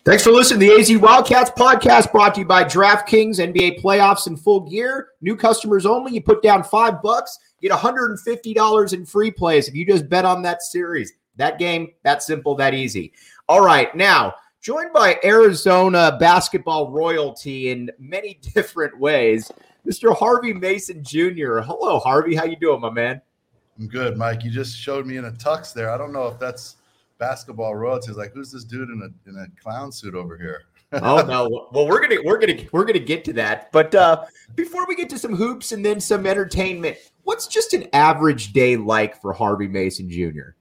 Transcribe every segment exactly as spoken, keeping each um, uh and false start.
Thanks for listening to the A Z Wildcats podcast, brought to you by DraftKings. N B A playoffs in full gear. New customers only. You put down five bucks, get one hundred fifty dollars in free plays if you just bet on that series. That game, that simple, that easy. All right, now, joined by Arizona basketball royalty in many different ways, Mister Harvey Mason Junior Hello, Harvey. How you doing, my man? I'm good, Mike. You just showed me in a tux there. I don't know if that's basketball royalty. Is like, who's this dude in a in a clown suit over here? Oh no. Well, we're gonna we're gonna we're gonna get to that. But uh, before we get to some hoops and then some entertainment, what's just an average day like for Harvey Mason Junior?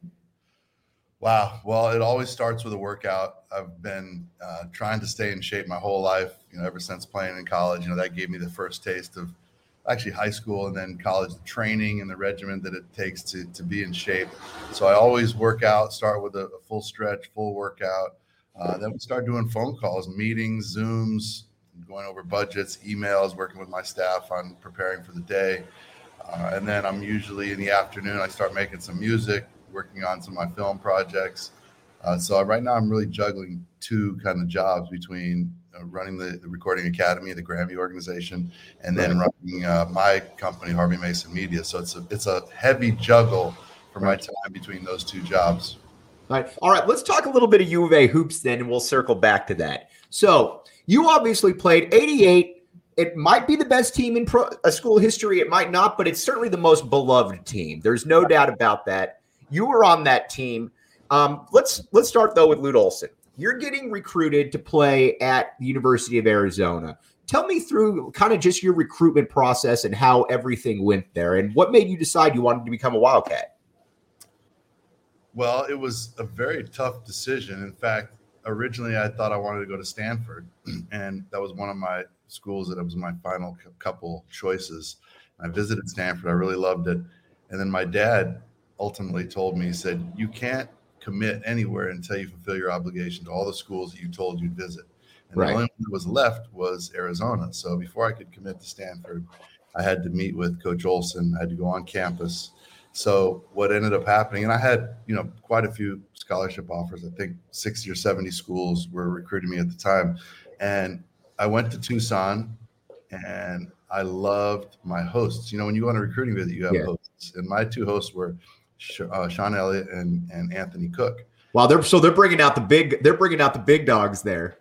Wow. Well, it always starts with a workout. I've been uh, trying to stay in shape my whole life. You know, ever since playing in college. You know, that gave me the first taste of actually high school and then college, the training and the regimen that it takes to to be in shape. So I always work out, start with a, a full stretch, full workout. Uh, then we start doing phone calls, meetings, Zooms, going over budgets, emails, working with my staff on preparing for the day. Uh, and then I'm usually in the afternoon, I start making some music, working on some of my film projects. Uh, so right now I'm really juggling two kind of jobs between uh, running the, the Recording Academy, the Grammy organization, and then right. running uh, my company, Harvey Mason Media. So it's a, it's a heavy juggle for my time between those two jobs. All right. All right. Let's talk a little bit of U of A hoops then, and we'll circle back to that. So you obviously played eighty-eight. It might be the best team in pro, uh, school history. It might not, but it's certainly the most beloved team. There's no doubt about that. You were on that team. Um, let's let's start, though, with Lute Olson. You're getting recruited to play at the University of Arizona. Tell me through kind of just your recruitment process and how everything went there, and what made you decide you wanted to become a Wildcat? Well, it was a very tough decision. In fact, originally I thought I wanted to go to Stanford, and that was one of my schools that was my final couple choices. I visited Stanford. I really loved it. And then my dad ultimately told me, he said, you can't commit anywhere until you fulfill your obligation to all the schools that you told you'd visit. And right. the only one that was left was Arizona. So before I could commit to Stanford, I had to meet with Coach Olson. I had to go on campus. So what ended up happening, and I had, you know, quite a few scholarship offers. I think sixty or seventy schools were recruiting me at the time. And I went to Tucson, and I loved my hosts. You know, when you go on a recruiting visit, you have yeah. hosts. And my two hosts were uh, Sean Elliott and, and Anthony Cook. Wow, they're so they're bringing out the big they're bringing out the big dogs there.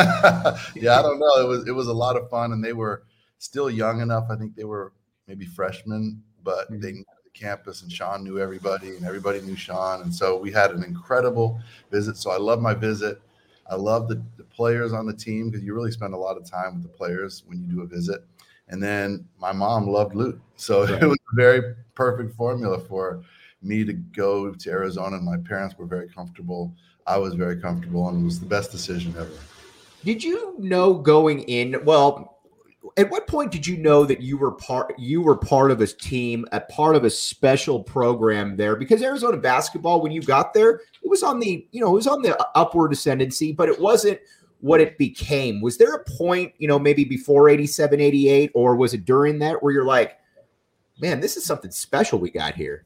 Yeah, I don't know. It was it was a lot of fun, and they were still young enough. I think they were maybe freshmen, but mm-hmm. they knew the campus, and Sean knew everybody, and everybody knew Sean, and so we had an incredible visit. So I love my visit. I love the, the players on the team because you really spend a lot of time with the players when you do a visit. And then my mom loved Lute, so right. it was a very perfect formula for me to go to Arizona. And my parents were very comfortable. I was very comfortable, and it was the best decision ever. Did you know going in? Well, at what point did you know that you were part? You were part of a team, a part of a special program there? Because Arizona basketball, when you got there, it was on the you know it was on the upward ascendancy, but it wasn't what it became. Was there a point, you know, maybe before eighty-seven, eighty-eight, or was it during that where you're like, man, this is something special we got here?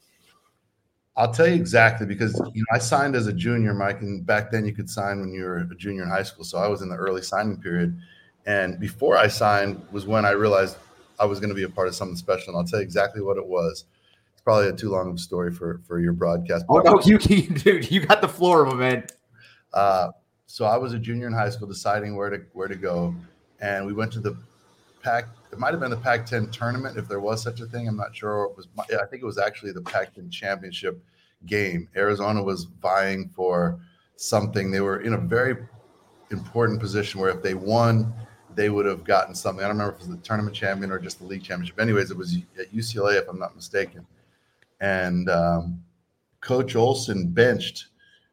I'll tell you exactly, because you know I signed as a junior, Mike, and back then you could sign when you were a junior in high school. So I was in the early signing period. And before I signed was when I realized I was going to be a part of something special. And I'll tell you exactly what it was. It's probably a too long of a story for, for your broadcast. Oh, no, you, dude, you got the floor, my man. Uh, so I was a junior in high school deciding where to where to go. And we went to the Pac. It might have been the Pac ten tournament, if there was such a thing. I'm not sure. It was. I think it was actually the Pac ten championship game. Arizona was vying for something. They were in a very important position where if they won, they would have gotten something. I don't remember if it was the tournament champion or just the league championship. Anyways, it was at U C L A, if I'm not mistaken. And um, Coach Olson benched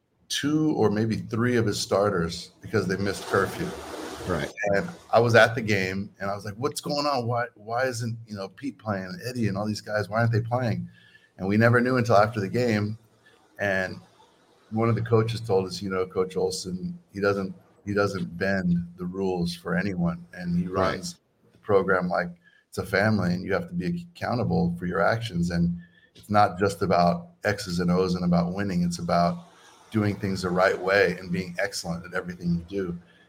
two or maybe three of his starters because they missed curfew. Right. And I was at the game, and I was like, what's going on? Why why isn't, you know, Pete playing, and Eddie and all these guys? Why aren't they playing? And we never knew until after the game. And one of the coaches told us, you know, Coach Olson, he doesn't he doesn't bend the rules for anyone. And he runs right. the program like it's a family, and you have to be accountable for your actions. And it's not just about X's and O's and about winning. It's about doing things the right way and being excellent at everything you do.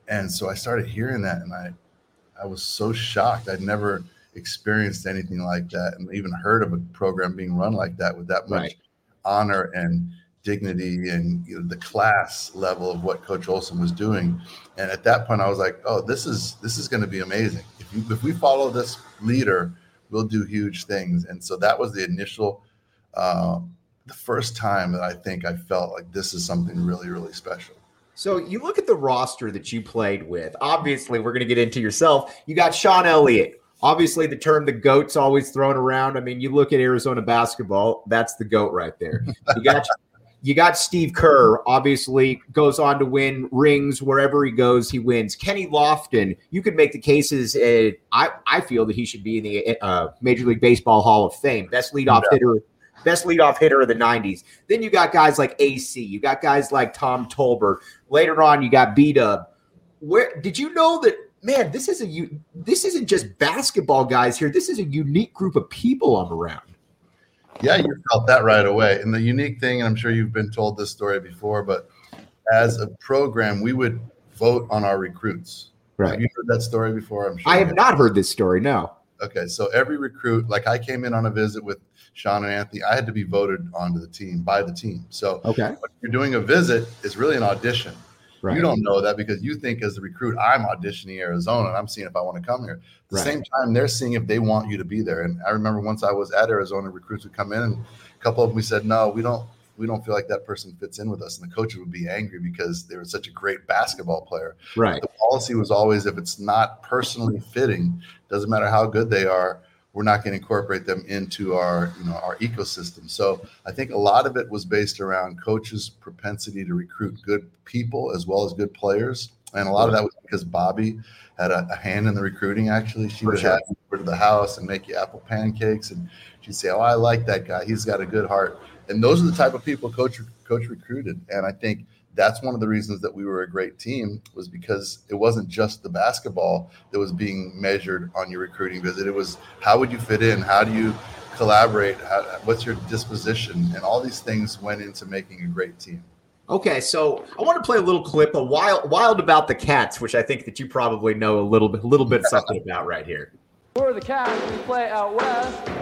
And so I started hearing that, and I, I was so shocked. I'd never experienced anything like that, and even heard of a program being run like that with that much Right. honor and dignity, and you know, the class level of what Coach Olson was doing. And at that point, I was like, "Oh, this is this is going to be amazing. If you, if we follow this leader, we'll do huge things." And so that was the initial, uh, the first time that I think I felt like this is something really, really special. So you look at the roster that you played with. Obviously, we're going to get into yourself. You got Sean Elliott. Obviously, the term the GOAT's always thrown around. I mean, you look at Arizona basketball, that's the GOAT right there. You got you got Steve Kerr, obviously goes on to win rings wherever he goes, he wins. Kenny Lofton, you could make the cases. Uh, I, I feel that he should be in the uh, Major League Baseball Hall of Fame. Best leadoff Yeah. hitter. Best leadoff hitter of the nineties. Then you got guys like A C. You got guys like Tom Tolbert. Later on, you got B-Dub. Where did you know that, man, this is a this isn't just basketball guys here. This is a unique group of people I'm around. Yeah, you felt that right away. And the unique thing, and I'm sure you've been told this story before, but as a program, we would vote on our recruits. Right. Have you heard that story before? I'm sure. I have not heard this story, no. Okay, so every recruit, like I came in on a visit with Sean and Anthony, I had to be voted onto the team by the team. So Okay. when you're doing a visit, it's really an audition. Right. You don't know that because you think as the recruit, I'm auditioning Arizona and I'm seeing if I want to come here. At the Right. same time, they're seeing if they want you to be there. And I remember once I was at Arizona, recruits would come in and a couple of them we said, no, we don't we don't feel like that person fits in with us. And the coaches would be angry because they were such a great basketball player. Right. The policy was always if it's not personally fitting, doesn't matter how good they are, we're not going to incorporate them into our, you know, our ecosystem. So I think a lot of it was based around coaches' propensity to recruit good people as well as good players. And a lot of that was because Bobby had a, a hand in the recruiting. Actually, she For would sure. have you over to the house and make you apple pancakes. And she'd say, oh, I like that guy. He's got a good heart. And those are the type of people coach coach recruited. And I think that's one of the reasons that we were a great team was because it wasn't just the basketball that was being measured on your recruiting visit. It was how would you fit in? How do you collaborate? How, what's your disposition? And all these things went into making a great team. Okay, so I want to play a little clip, a wild, wild about the Cats, which I think that you probably know a little bit, little bit something about right here. We're the Cats. We play out west,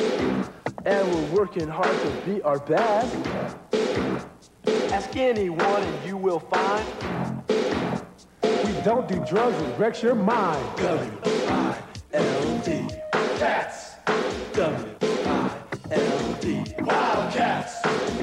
and we're working hard to be our best. Ask anyone, and you will find We don't do drugs, it wrecks your mind. W I L D Cats. W I L D Wildcats.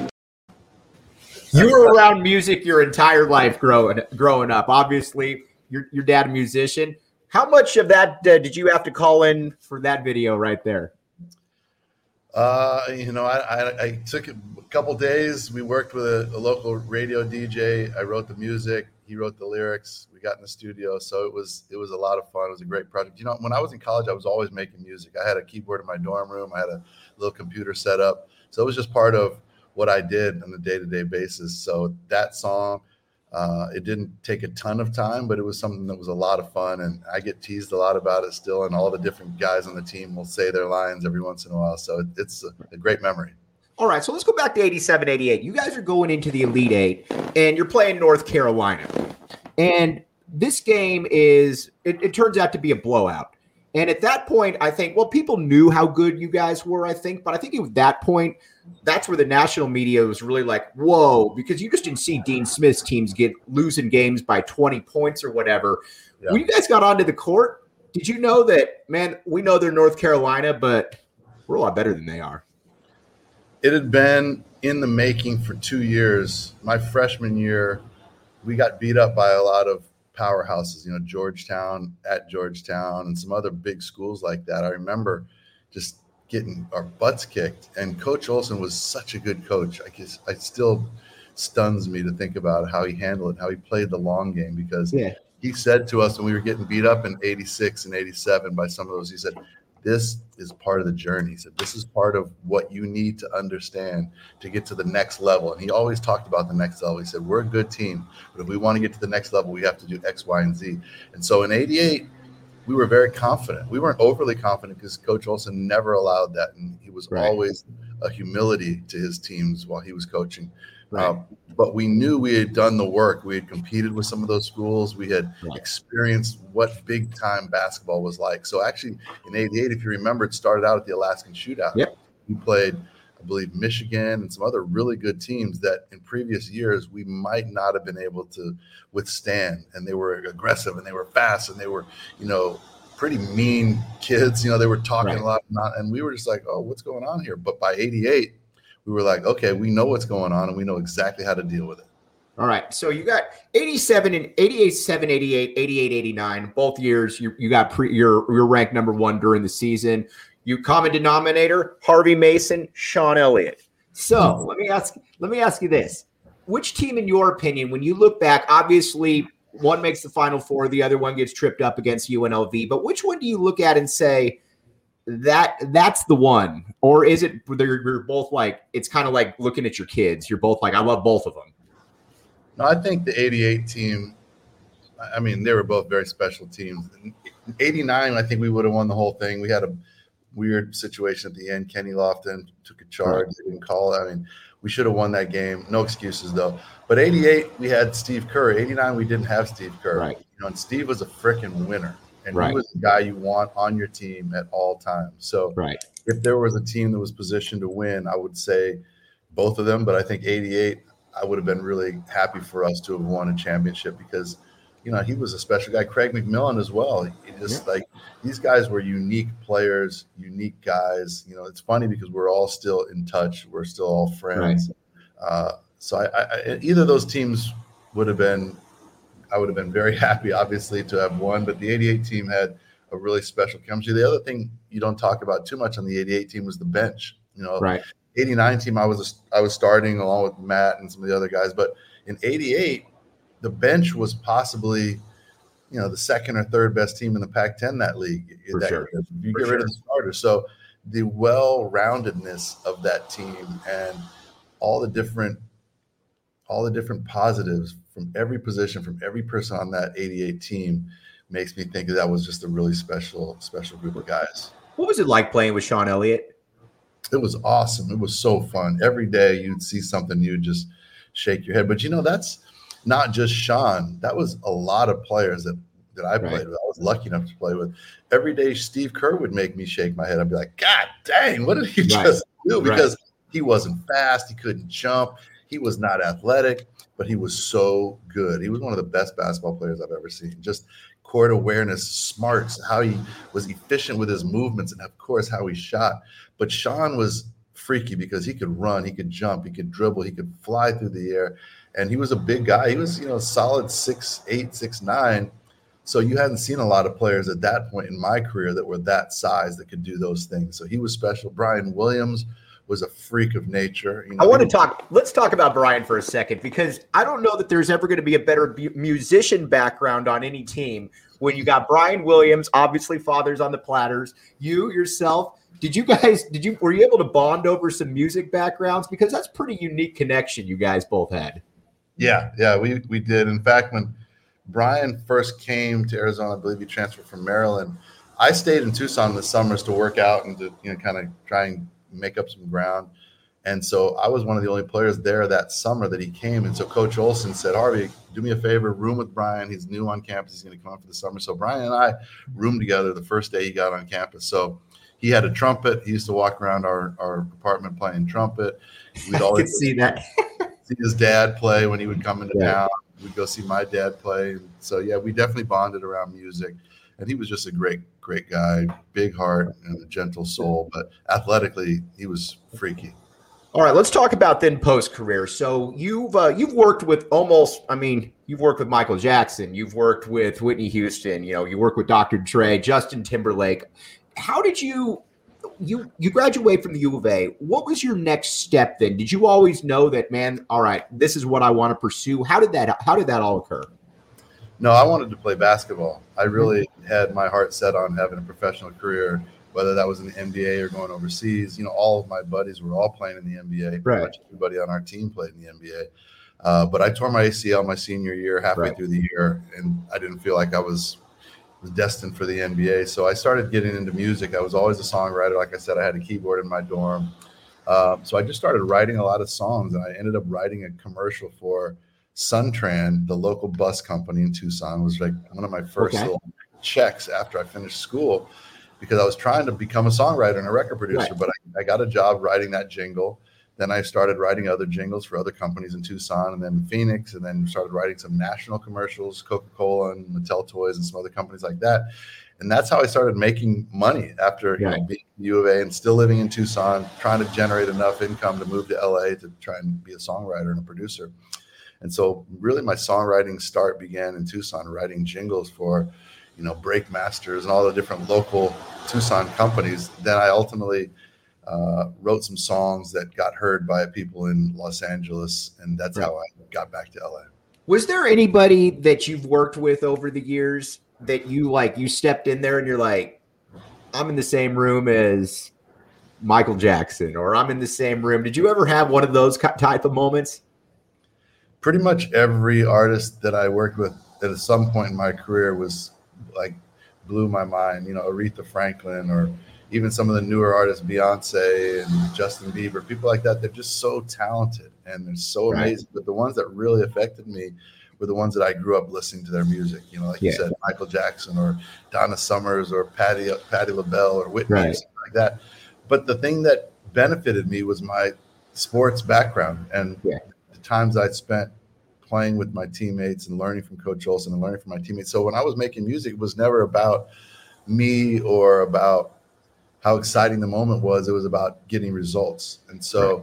You were around music your entire life growing growing up. Obviously, your your dad a musician. How much of that uh, did you have to call in for that video right there? Uh, you know, I, I, I took a couple days. We worked with a, a local radio D J. I wrote the music. He wrote the lyrics. We got in the studio. So it was it was a lot of fun. It was a great project. You know, when I was in college, I was always making music. I had a keyboard in my dorm room. I had a little computer set up. So it was just part of what I did on a day-to-day basis. So that song, uh, it didn't take a ton of time, but it was something that was a lot of fun. And I get teased a lot about it still. And all the different guys on the team will say their lines every once in a while. So it, it's a, a great memory. All right, so let's go back to eighty-seven, eighty-eight. You guys are going into the Elite Eight, and you're playing North Carolina. And this game is, it, it turns out to be a blowout. And at that point, I think, well, people knew how good you guys were, I think. But I think at that point, that's where the national media was really like, whoa, because you just didn't see Dean Smith's teams get losing games by twenty points or whatever. Yeah. When you guys got onto the court, did you know that, man, we know they're North Carolina, but we're a lot better than they are? It had been in the making for two years. My freshman year, we got beat up by a lot of powerhouses, you know, Georgetown, at Georgetown, and some other big schools like that. I remember just getting our butts kicked. And Coach Olson was such a good coach. I guess it still stuns me to think about how he handled it, how he played the long game, because Yeah. he said to us when we were getting beat up in eighty-six and eighty-seven by some of those, he said, this is part of the journey. He said, this is part of what you need to understand to get to the next level. And he always talked about the next level. He said, we're a good team, but if we want to get to the next level, we have to do X, Y, and Z. And so in eighty-eight, we were very confident. We weren't overly confident because Coach Olson never allowed that, and he was Right. always a humility to his teams while he was coaching. Right. Um, but we knew we had done the work. We had competed with some of those schools. We had Right. experienced what big time basketball was like. So actually, in eighty-eight, if you remember, it started out at the Alaskan Shootout. Yep. We played, I believe, Michigan and some other really good teams that in previous years we might not have been able to withstand. And they were aggressive and they were fast and they were, you know, pretty mean kids. You know, they were talking Right. a lot, not, and we were just like, oh, what's going on here? But by eighty-eight, we were like, okay, we know what's going on and we know exactly how to deal with it. All right. So you got eighty-seven and eighty-eight, seven, eighty-eight, eighty-eight, eighty-nine. Both years you, you got pre, you're, you're ranked number one during the season. You common denominator, Harvey Mason, Sean Elliott. So let me ask, let me ask you this. Which team, in your opinion, when you look back, obviously one makes the Final Four, the other one gets tripped up against U N L V, but which one do you look at and say, that that's the one? Or is it they're, you're both like, it's kind of like looking at your kids. You're both like, I love both of them. No, I think the eighty-eight team, I mean, they were both very special teams. In eighty-nine, I think we would have won the whole thing. We had a weird situation at the end. Kenny Lofton took a charge. Right. They didn't call it. I mean, we should have won that game. No excuses, though. But eighty-eight, we had Steve Kerr. eighty-nine, we didn't have Steve Kerr. Right. You know, and Steve was a freaking winner. And Right. he was the guy you want on your team at all times. So Right. if there was a team that was positioned to win, I would say both of them. But I think eighty-eight, I would have been really happy for us to have won a championship because, you know, he was a special guy. Craig McMillan as well. He just Yeah. like these guys were unique players, unique guys. You know, it's funny because we're all still in touch. We're still all friends. Right. Uh, so I, I, either of those teams would have been, I would have been very happy, obviously, to have won. But the eighty-eight team had a really special chemistry. The other thing you don't talk about too much on the eighty-eight team was the bench. You know, Right. eighty-nine team, I was I was starting along with Matt and some of the other guys. But in eighty-eight, the bench was possibly, you know, the second or third best team in the Pac ten that league. For that sure. year. You For get sure. rid of the starters. So the well-roundedness of that team and all the different all the different positives from every position, from every person on that eighty-eight team makes me think that, that was just a really special, special group of guys. What was it like playing with Sean Elliott? It was awesome. It was so fun. Every day you'd see something, you'd just shake your head. But, you know, that's not just Sean. That was a lot of players that, that I played Right. with. I was lucky enough to play with. Every day Steve Kerr would make me shake my head. I'd be like, God dang, what did he Right. just do? Because Right. he wasn't fast. He couldn't jump. He was not athletic, but he was so good. He was one of the best basketball players I've ever seen. Just court awareness, smarts, how he was efficient with his movements, and of course how he shot. But Sean was freaky because he could run, he could jump, he could dribble, he could fly through the air, and he was a big guy. He was, you know, solid six eight, six nine. So you hadn't seen a lot of players at that point in my career that were that size that could do those things. So he was special. Brian Williams was a freak of nature. You know, I want to he- talk. Let's talk about Brian for a second, because I don't know that there's ever going to be a better bu- musician background on any team when you got Brian Williams, obviously fathers on the platters, you yourself. Did you guys, did you, were you able to bond over some music backgrounds? Because that's pretty unique connection you guys both had. Yeah, yeah, we we did. In fact, when Brian first came to Arizona, I believe he transferred from Maryland. I stayed in Tucson in the summers to work out and to, you know, kind of try and make up some ground. And so I was one of the only players there that summer that he came. And so Coach Olson said, Harvey, do me a favor, room with Brian. He's new on campus. He's going to come up for the summer. So Brian and I roomed together the first day he got on campus. So he had a trumpet. He used to walk around our, our apartment playing trumpet. We'd I could always see that. see his dad play when he would come into Yeah. town. We'd go see my dad play. So, yeah, we definitely bonded around music. And he was just a great, great guy, big heart and a gentle soul. But athletically, he was freaky. All right, let's talk about then post career. So you've uh, you've worked with almost, I mean, you've worked with Michael Jackson, you've worked with Whitney Houston, you know, you work with Doctor Dre, Justin Timberlake. How did you you you graduate from the U of A? What was your next step then? Did you always know that, man? All right, this is what I want to pursue. How did that How did that all occur? No, I wanted to play basketball. I really had my heart set on having a professional career, whether that was in the N B A or going overseas. You know, all of my buddies were all playing in the N B A. Pretty Right. much everybody on our team played in the N B A. Uh, but I tore my A C L my senior year, halfway Right. through the year, and I didn't feel like I was was destined for the N B A. So I started getting into music. I was always a songwriter. Like I said, I had a keyboard in my dorm. Um, so I just started writing a lot of songs, and I ended up writing a commercial for Suntran, the local bus company in Tucson. It was like one of my first Okay. little checks after I finished school, because I was trying to become a songwriter and a record producer, Right. but I, I got a job writing that jingle. Then I started writing other jingles for other companies in Tucson and then Phoenix, and then started writing some national commercials, Coca-Cola and Mattel Toys and some other companies like that. And that's how I started making money after you Right. know, being at U of A and still living in Tucson, trying to generate enough income to move to L A to try and be a songwriter and a producer. And so really my songwriting start began in Tucson, writing jingles for, you know, Breakmasters and all the different local Tucson companies. Then I ultimately uh, wrote some songs that got heard by people in Los Angeles. And that's Right. how I got back to L A. Was there anybody that you've worked with over the years that you like, you stepped in there and you're like, I'm in the same room as Michael Jackson, or I'm in the same room? Did you ever have one of those type of moments? Pretty much every artist that I worked with at some point in my career was like blew my mind. You know, Aretha Franklin, or even some of the newer artists, Beyonce and Justin Bieber, people like that. They're just so talented and they're so Right. amazing. But the ones that really affected me were the ones that I grew up listening to their music. You know, like Yeah. you said, Michael Jackson or Donna Summers or Patti Patti LaBelle or Whitney, Right. or something like that. But the thing that benefited me was my sports background and Yeah. the times I spent playing with my teammates and learning from Coach Olson and learning from my teammates. So when I was making music, it was never about me or about how exciting the moment was. It was about getting results. And so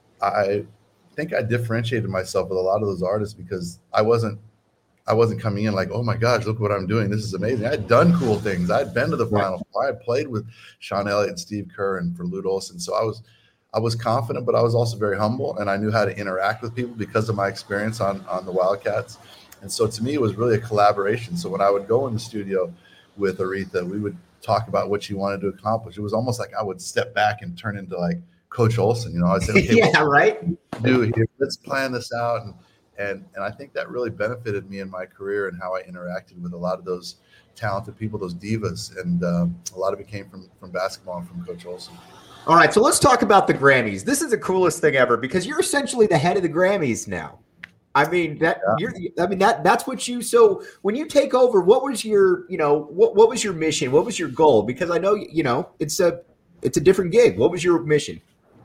I think I differentiated myself with a lot of those artists because I wasn't I wasn't coming in like, oh my gosh, look what I'm doing. This is amazing. I had done cool things. I had been to the Right. Final Four. I had played with Sean Elliott and Steve Kerr and for Lute Olson. So I was I was confident, but I was also very humble, and I knew how to interact with people because of my experience on, on the Wildcats. And so to me, it was really a collaboration. So when I would go in the studio with Aretha, we would talk about what she wanted to accomplish. It was almost like I would step back and turn into like Coach Olson. You know, I'd say, okay, Yeah, right. what do we do here? Let's plan this out. And, and, and I think that really benefited me in my career and how I interacted with a lot of those talented people, those divas. And um, a lot of it came from, from basketball and from Coach Olson. All right, so let's talk about the Grammys. This is the coolest thing ever because you're essentially the head of the Grammys now. I mean that Yeah. you're I mean that that's what you so when you take over, what was your, you know, what what was your mission? What was your goal? Because I know, you know, it's a it's a different gig. What was your mission?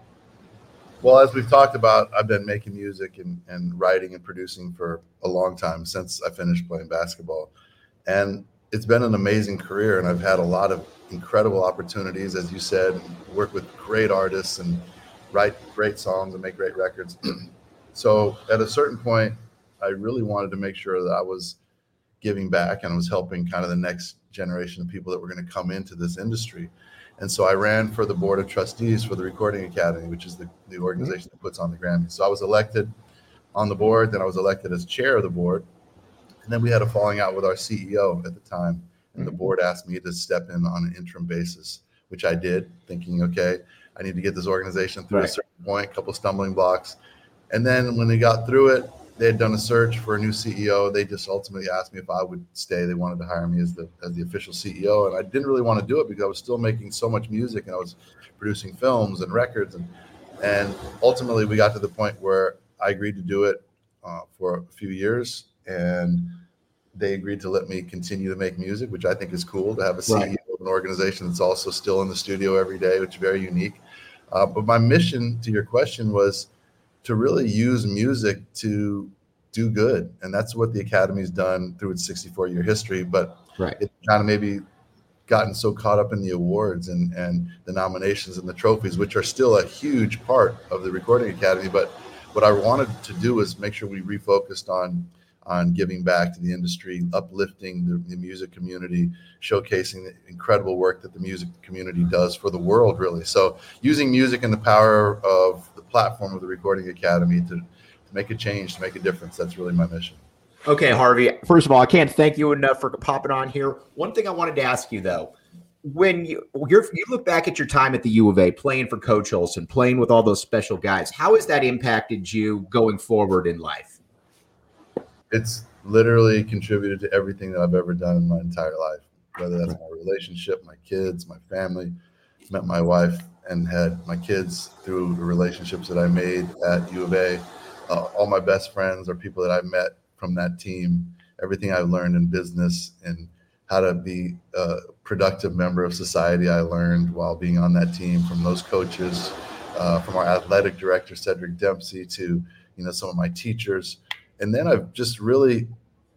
Well, as we've talked about, I've been making music and, and writing and producing for a long time since I finished playing basketball. And it's been an amazing career, and I've had a lot of incredible opportunities, as you said, work with great artists and write great songs and make great records. So at a certain point, I really wanted to make sure that I was giving back and I was helping kind of the next generation of people that were going to come into this industry. And so I ran for the board of trustees for the Recording Academy, which is the, the organization that puts on the Grammys. So I was elected on the board, then I was elected as chair of the board. And then we had a falling out with our C E O at the time. And the board asked me to step in on an interim basis, which I did, thinking, okay, I need to get this organization through Right. a certain point, a couple of stumbling blocks. And then when they got through it, they had done a search for a new C E O. They just ultimately asked me if I would stay. They wanted to hire me as the as the official C E O. And I didn't really want to do it because I was still making so much music and I was producing films and records. And, and ultimately we got to the point where I agreed to do it uh, for a few years. And they agreed to let me continue to make music, which I think is cool to have a C E O Right. of an organization that's also still in the studio every day, which is very unique. Uh, but my mission, to your question, was to really use music to do good. And that's what the Academy's done through its sixty-four year history. But Right. it kind of maybe gotten so caught up in the awards and, and the nominations and the trophies, which are still a huge part of the Recording Academy. But what I wanted to do is make sure we refocused on on giving back to the industry, uplifting the, the music community, showcasing the incredible work that the music community does for the world, really. So using music and the power of the platform of the Recording Academy to, to make a change, to make a difference. That's really my mission. Okay, Harvey. First of all, I can't thank you enough for popping on here. One thing I wanted to ask you though, when you you're, you look back at your time at the U of A, playing for Coach Olson, playing with all those special guys, how has that impacted you going forward in life? It's literally contributed to everything that I've ever done in my entire life. whether that's my relationship, my kids, my family. Met my wife and had my kids through the relationships that I made at U of A. Uh, all my best friends are people that I've met from that team. Everything I've learned in business and how to be a productive member of society, I learned while being on that team from those coaches, uh, from our athletic director, Cedric Dempsey, to, you know, some of my teachers. And then I've just really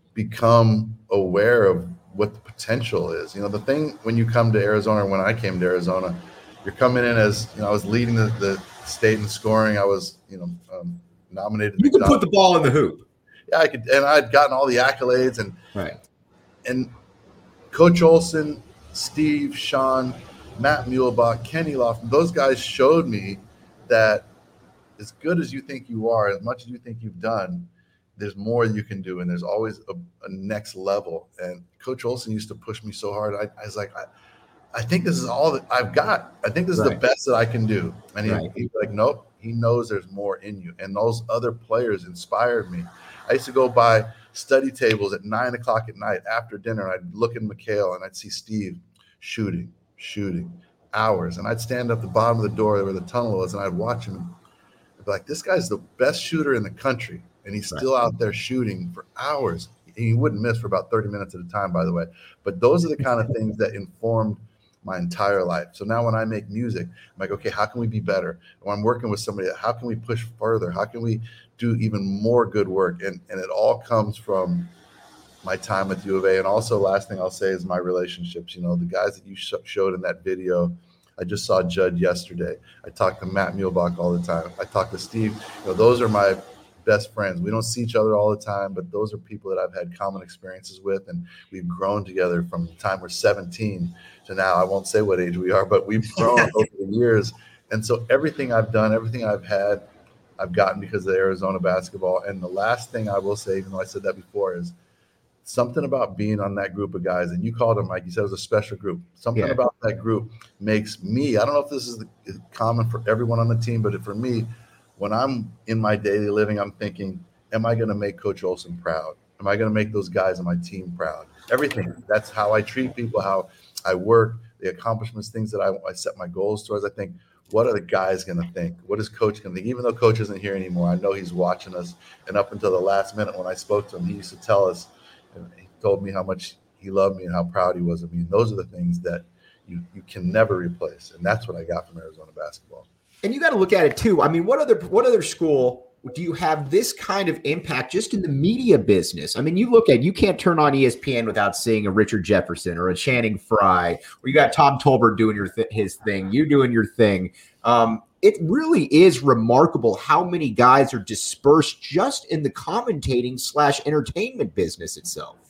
become aware of what the potential is. You know, the thing when you come to Arizona, when I came to Arizona, you're coming in as, you know, I was leading the, the state in scoring. I was, you know, um, nominated. You could put the ball in the hoop. Yeah, I could, and I'd gotten all the accolades, and right. And Coach Olson, Steve, Sean, Matt Muehlbach, Kenny Lofton, those guys showed me that as good as you think you are, as much as you think you've done, there's more you can do, and there's always a, a next level. And Coach Olson used to push me so hard. I, I was like, I, I think this is all that I've got. I think this is right. the best that I can do. And he, right. he's like, nope, he knows there's more in you. And those other players inspired me. I used to go by study tables at nine o'clock at night after dinner, and I'd look at McHale and I'd see Steve shooting, shooting, hours. And I'd stand up the bottom of the door where the tunnel was, and I'd watch him. I'd be like, this guy's the best shooter in the country. And he's still right. out there shooting for hours. He wouldn't miss for about thirty minutes at a time, by the way. But those are the kind of things that informed my entire life. So now when I make music, I'm like, okay, how can we be better? When I'm working with somebody, how can we push further? How can we do even more good work? And and it all comes from my time at U of A. And also, last thing I'll say is my relationships. You know, the guys that you sh- showed in that video, I just saw Judd yesterday. I talk to Matt Muehlbach all the time. I talk to Steve. You know, those are my best friends. We don't see each other all the time, but those are people that I've had common experiences with, and we've grown together from the time we're seventeen to now. I won't say what age we are, but we've grown over the years. And so everything I've done, everything I've had, I've gotten because of Arizona basketball. And the last thing I will say, even though I said that before, is something about being on that group of guys. And you called them, Mike, you said it was a special group. Something yeah. about that group makes me, I don't know if this is common for everyone on the team, but for me, when I'm in my daily living, I'm thinking, am I going to make Coach Olson proud? Am I going to make those guys on my team proud? Everything. That's how I treat people, how I work, the accomplishments, things that I, I set my goals towards. I think, what are the guys going to think? What is Coach going to think? Even though Coach isn't here anymore, I know he's watching us. And up until the last minute when I spoke to him, he used to tell us, and he told me how much he loved me and how proud he was of me. And those are the things that you, you can never replace. And that's what I got from Arizona basketball. And you got to look at it too. I mean, what other what other school do you have this kind of impact just in the media business? I mean, you look at, you can't turn on E S P N without seeing a Richard Jefferson or a Channing Frye, or you got Tom Tolbert doing your th- his thing, you doing your thing. Um, it really is remarkable how many guys are dispersed just in the commentating slash entertainment business itself.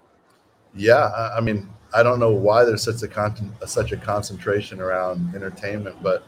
Yeah, I mean, I don't know why there's such a con- such a concentration around entertainment, but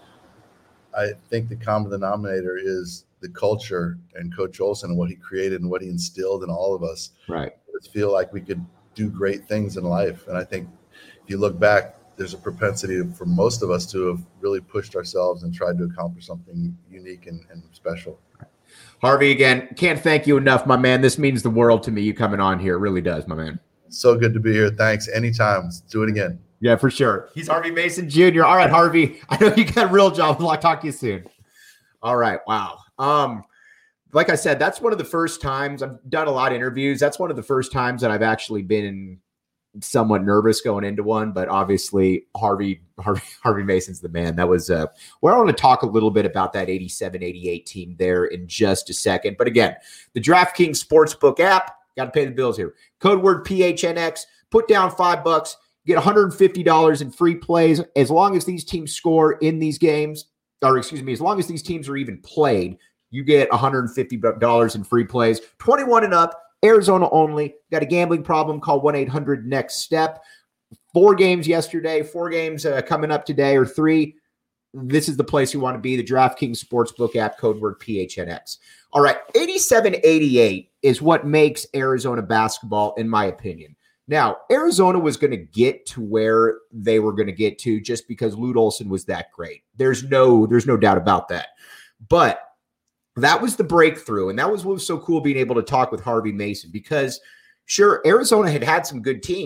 I think the common denominator is the culture and Coach Olson and what he created and what he instilled in all of us. Right. I feel like we could do great things in life. And I think if you look back, there's a propensity for most of us to have really pushed ourselves and tried to accomplish something unique and, and special. Harvey, again, can't thank you enough, my man. This means the world to me, you coming on here. It really does, my man. So good to be here. Thanks. Anytime. Let's do it again. Yeah, for sure. He's Harvey Mason Junior All right, Harvey. I know you got a real job. I'll talk to you soon. All right. Wow. Um, like I said, that's one of the first times I've done a lot of interviews. That's one of the first times that I've actually been somewhat nervous going into one. But obviously, Harvey Harvey, Harvey Mason's the man. That was uh, where I want to talk a little bit about that eighty-seven eighty-eight team there in just a second. But again, the DraftKings Sportsbook app, got to pay the bills here. Code word P H N X. Put down five bucks. Get one hundred fifty dollars in free plays as long as these teams score in these games, or excuse me, as long as these teams are even played, you get one hundred fifty dollars in free plays. twenty-one and up, Arizona only. Got a gambling problem? Call one eight hundred next step. Four games yesterday, four games uh, coming up today, or three. This is the place you want to be, the DraftKings Sportsbook app, code word P H N X. All right, eighty-seven eighty-eight is what makes Arizona basketball, in my opinion. Now, Arizona was going to get to where they were going to get to just because Lute Olson was that great. There's no, there's no doubt about that. But that was the breakthrough, and that was what was so cool being able to talk with Harvey Mason because, sure, Arizona had had some good teams,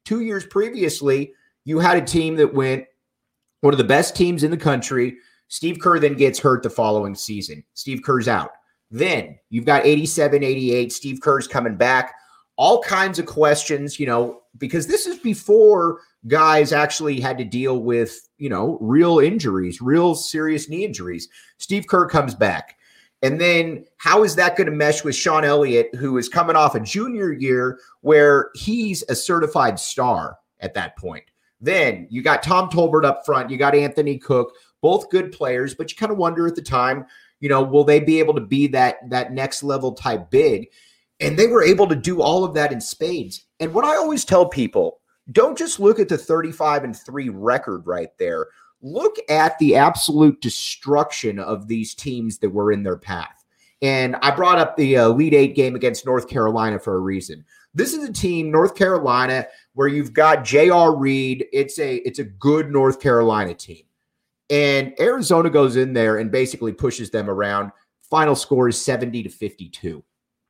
Two years previously, you had a team that went one of the best teams in the country. Steve Kerr then gets hurt the following season. Steve Kerr's out. Then you've got eighty-seven, eighty-eight. Steve Kerr's coming back. All kinds of questions, you know, because this is before guys actually had to deal with, you know, real injuries, real serious knee injuries. Steve Kerr comes back. And then how is that going to mesh with Sean Elliott, who is coming off a junior year where he's a certified star at that point? Then you got Tom Tolbert up front. You got Anthony Cook, both good players, but you kind of wonder at the time, you know, will they be able to be that, that next level type big? And they were able to do all of that in spades. And what I always tell people, don't just look at the thirty-five and three record right there. Look at the absolute destruction of these teams that were in their path. And I brought up the uh, Elite Eight game against North Carolina for a reason. This is a team, North Carolina, where you've got J R. Reed. It's a, it's a good North Carolina team. And Arizona goes in there and basically pushes them around. Final score is seventy to fifty-two.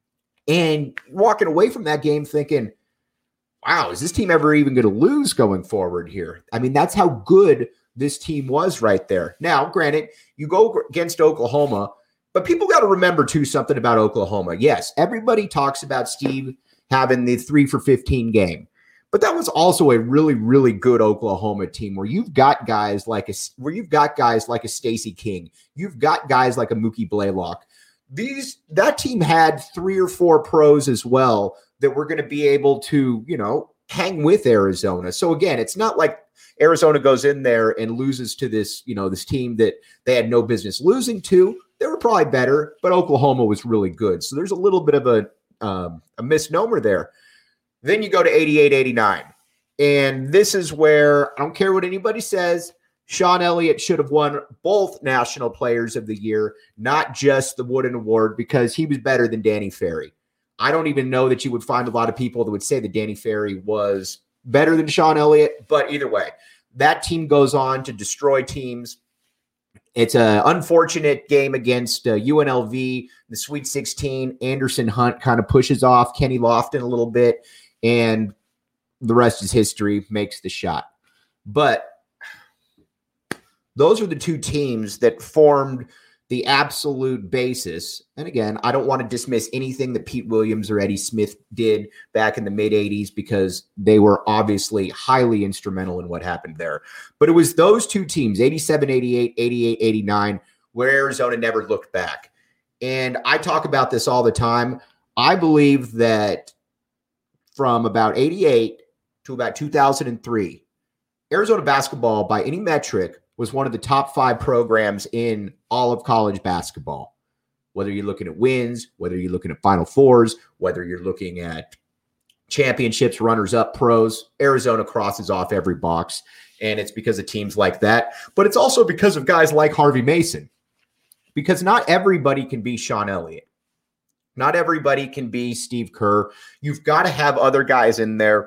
And walking away from that game thinking, wow, is this team ever even going to lose going forward here? I mean, that's how good this team was right there. Now, granted, you go against Oklahoma, but people got to remember, too, something about Oklahoma. Yes, everybody talks about Steve having the three for fifteen game, but that was also a really, really good Oklahoma team where you've got guys like a, where you've got guys like a Stacey King. You've got guys like a Mookie Blaylock. These that team had three or four pros as well that were going to be able to, you know, hang with Arizona. So again, it's not like Arizona goes in there and loses to this, you know, this team that they had no business losing to. They were probably better, but Oklahoma was really good. So there's a little bit of a um, a misnomer there. Then you go to eighty-eight, eighty-nine. And this is where I don't care what anybody says. Sean Elliott should have won both National Players of the Year, not just the Wooden Award, because he was better than Danny Ferry. I don't even know that you would find a lot of people that would say that Danny Ferry was better than Sean Elliott, but either way, that team goes on to destroy teams. It's an unfortunate game against uh, U N L V, the Sweet sixteen. Anderson Hunt kind of pushes off Kenny Lofton a little bit, and the rest is history, makes the shot. But those are the two teams that formed the absolute basis. And again, I don't want to dismiss anything that Pete Williams or Eddie Smith did back in the mid-eighties because they were obviously highly instrumental in what happened there. But it was those two teams, eighty-seven, eighty-eight, eighty-eight, eighty-nine, where Arizona never looked back. And I talk about this all the time. I believe that from about eighty-eight to about two thousand three, Arizona basketball, by any metric, was one of the top five programs in all of college basketball. Whether you're looking at wins, whether you're looking at Final Fours, whether you're looking at championships, runners-up, pros, Arizona crosses off every box, and it's because of teams like that. But it's also because of guys like Harvey Mason, because not everybody can be Sean Elliott. Not everybody can be Steve Kerr. You've got to have other guys in there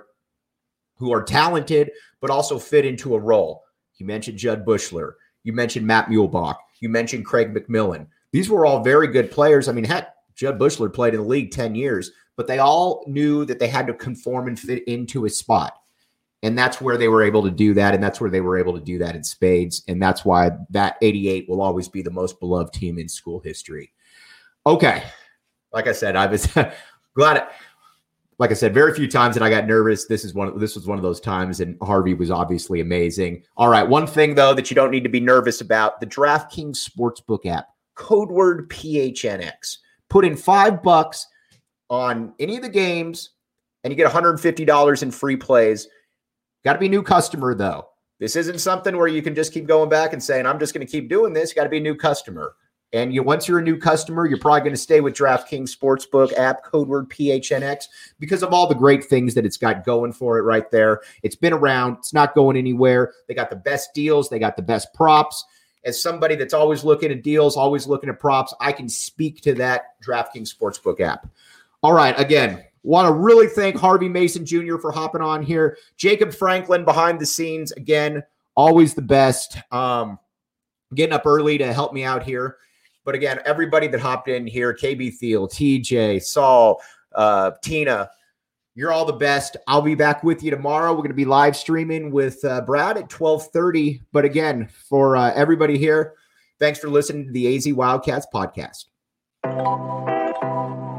who are talented but also fit into a role. You mentioned Judd Bushler. You mentioned Matt Muehlbach. You mentioned Craig McMillan. These were all very good players. I mean, heck, Judd Bushler played in the league ten years, but they all knew that they had to conform and fit into a spot. And that's where they were able to do that, and that's where they were able to do that in spades. And that's why that eighty-eight will always be the most beloved team in school history. Okay. Like I said, I was glad it, like I said, very few times that I got nervous. This is one. This was one of those times, and Harvey was obviously amazing. All right, one thing though that you don't need to be nervous about: the DraftKings Sportsbook app, code word P H N X. Put in five bucks on any of the games, and you get one hundred fifty dollars in free plays. Got to be a new customer though. This isn't something where you can just keep going back and saying, "I'm just going to keep doing this." You got to be a new customer. And you, once you're a new customer, you're probably going to stay with DraftKings Sportsbook app, code word P H N X, because of all the great things that it's got going for it right there. It's been around. It's not going anywhere. They got the best deals. They got the best props. As somebody that's always looking at deals, always looking at props, I can speak to that DraftKings Sportsbook app. All right, again, want to really thank Harvey Mason Junior for hopping on here. Jacob Franklin behind the scenes, again, always the best. Um, getting up early to help me out here. But again, everybody that hopped in here, K B Thiel, T J, Saul, uh, Tina, You're all the best. I'll be back with you tomorrow. We're going to be live streaming with uh, Brad at twelve thirty. But again, for uh, everybody here, thanks for listening to the A Z Wildcats podcast.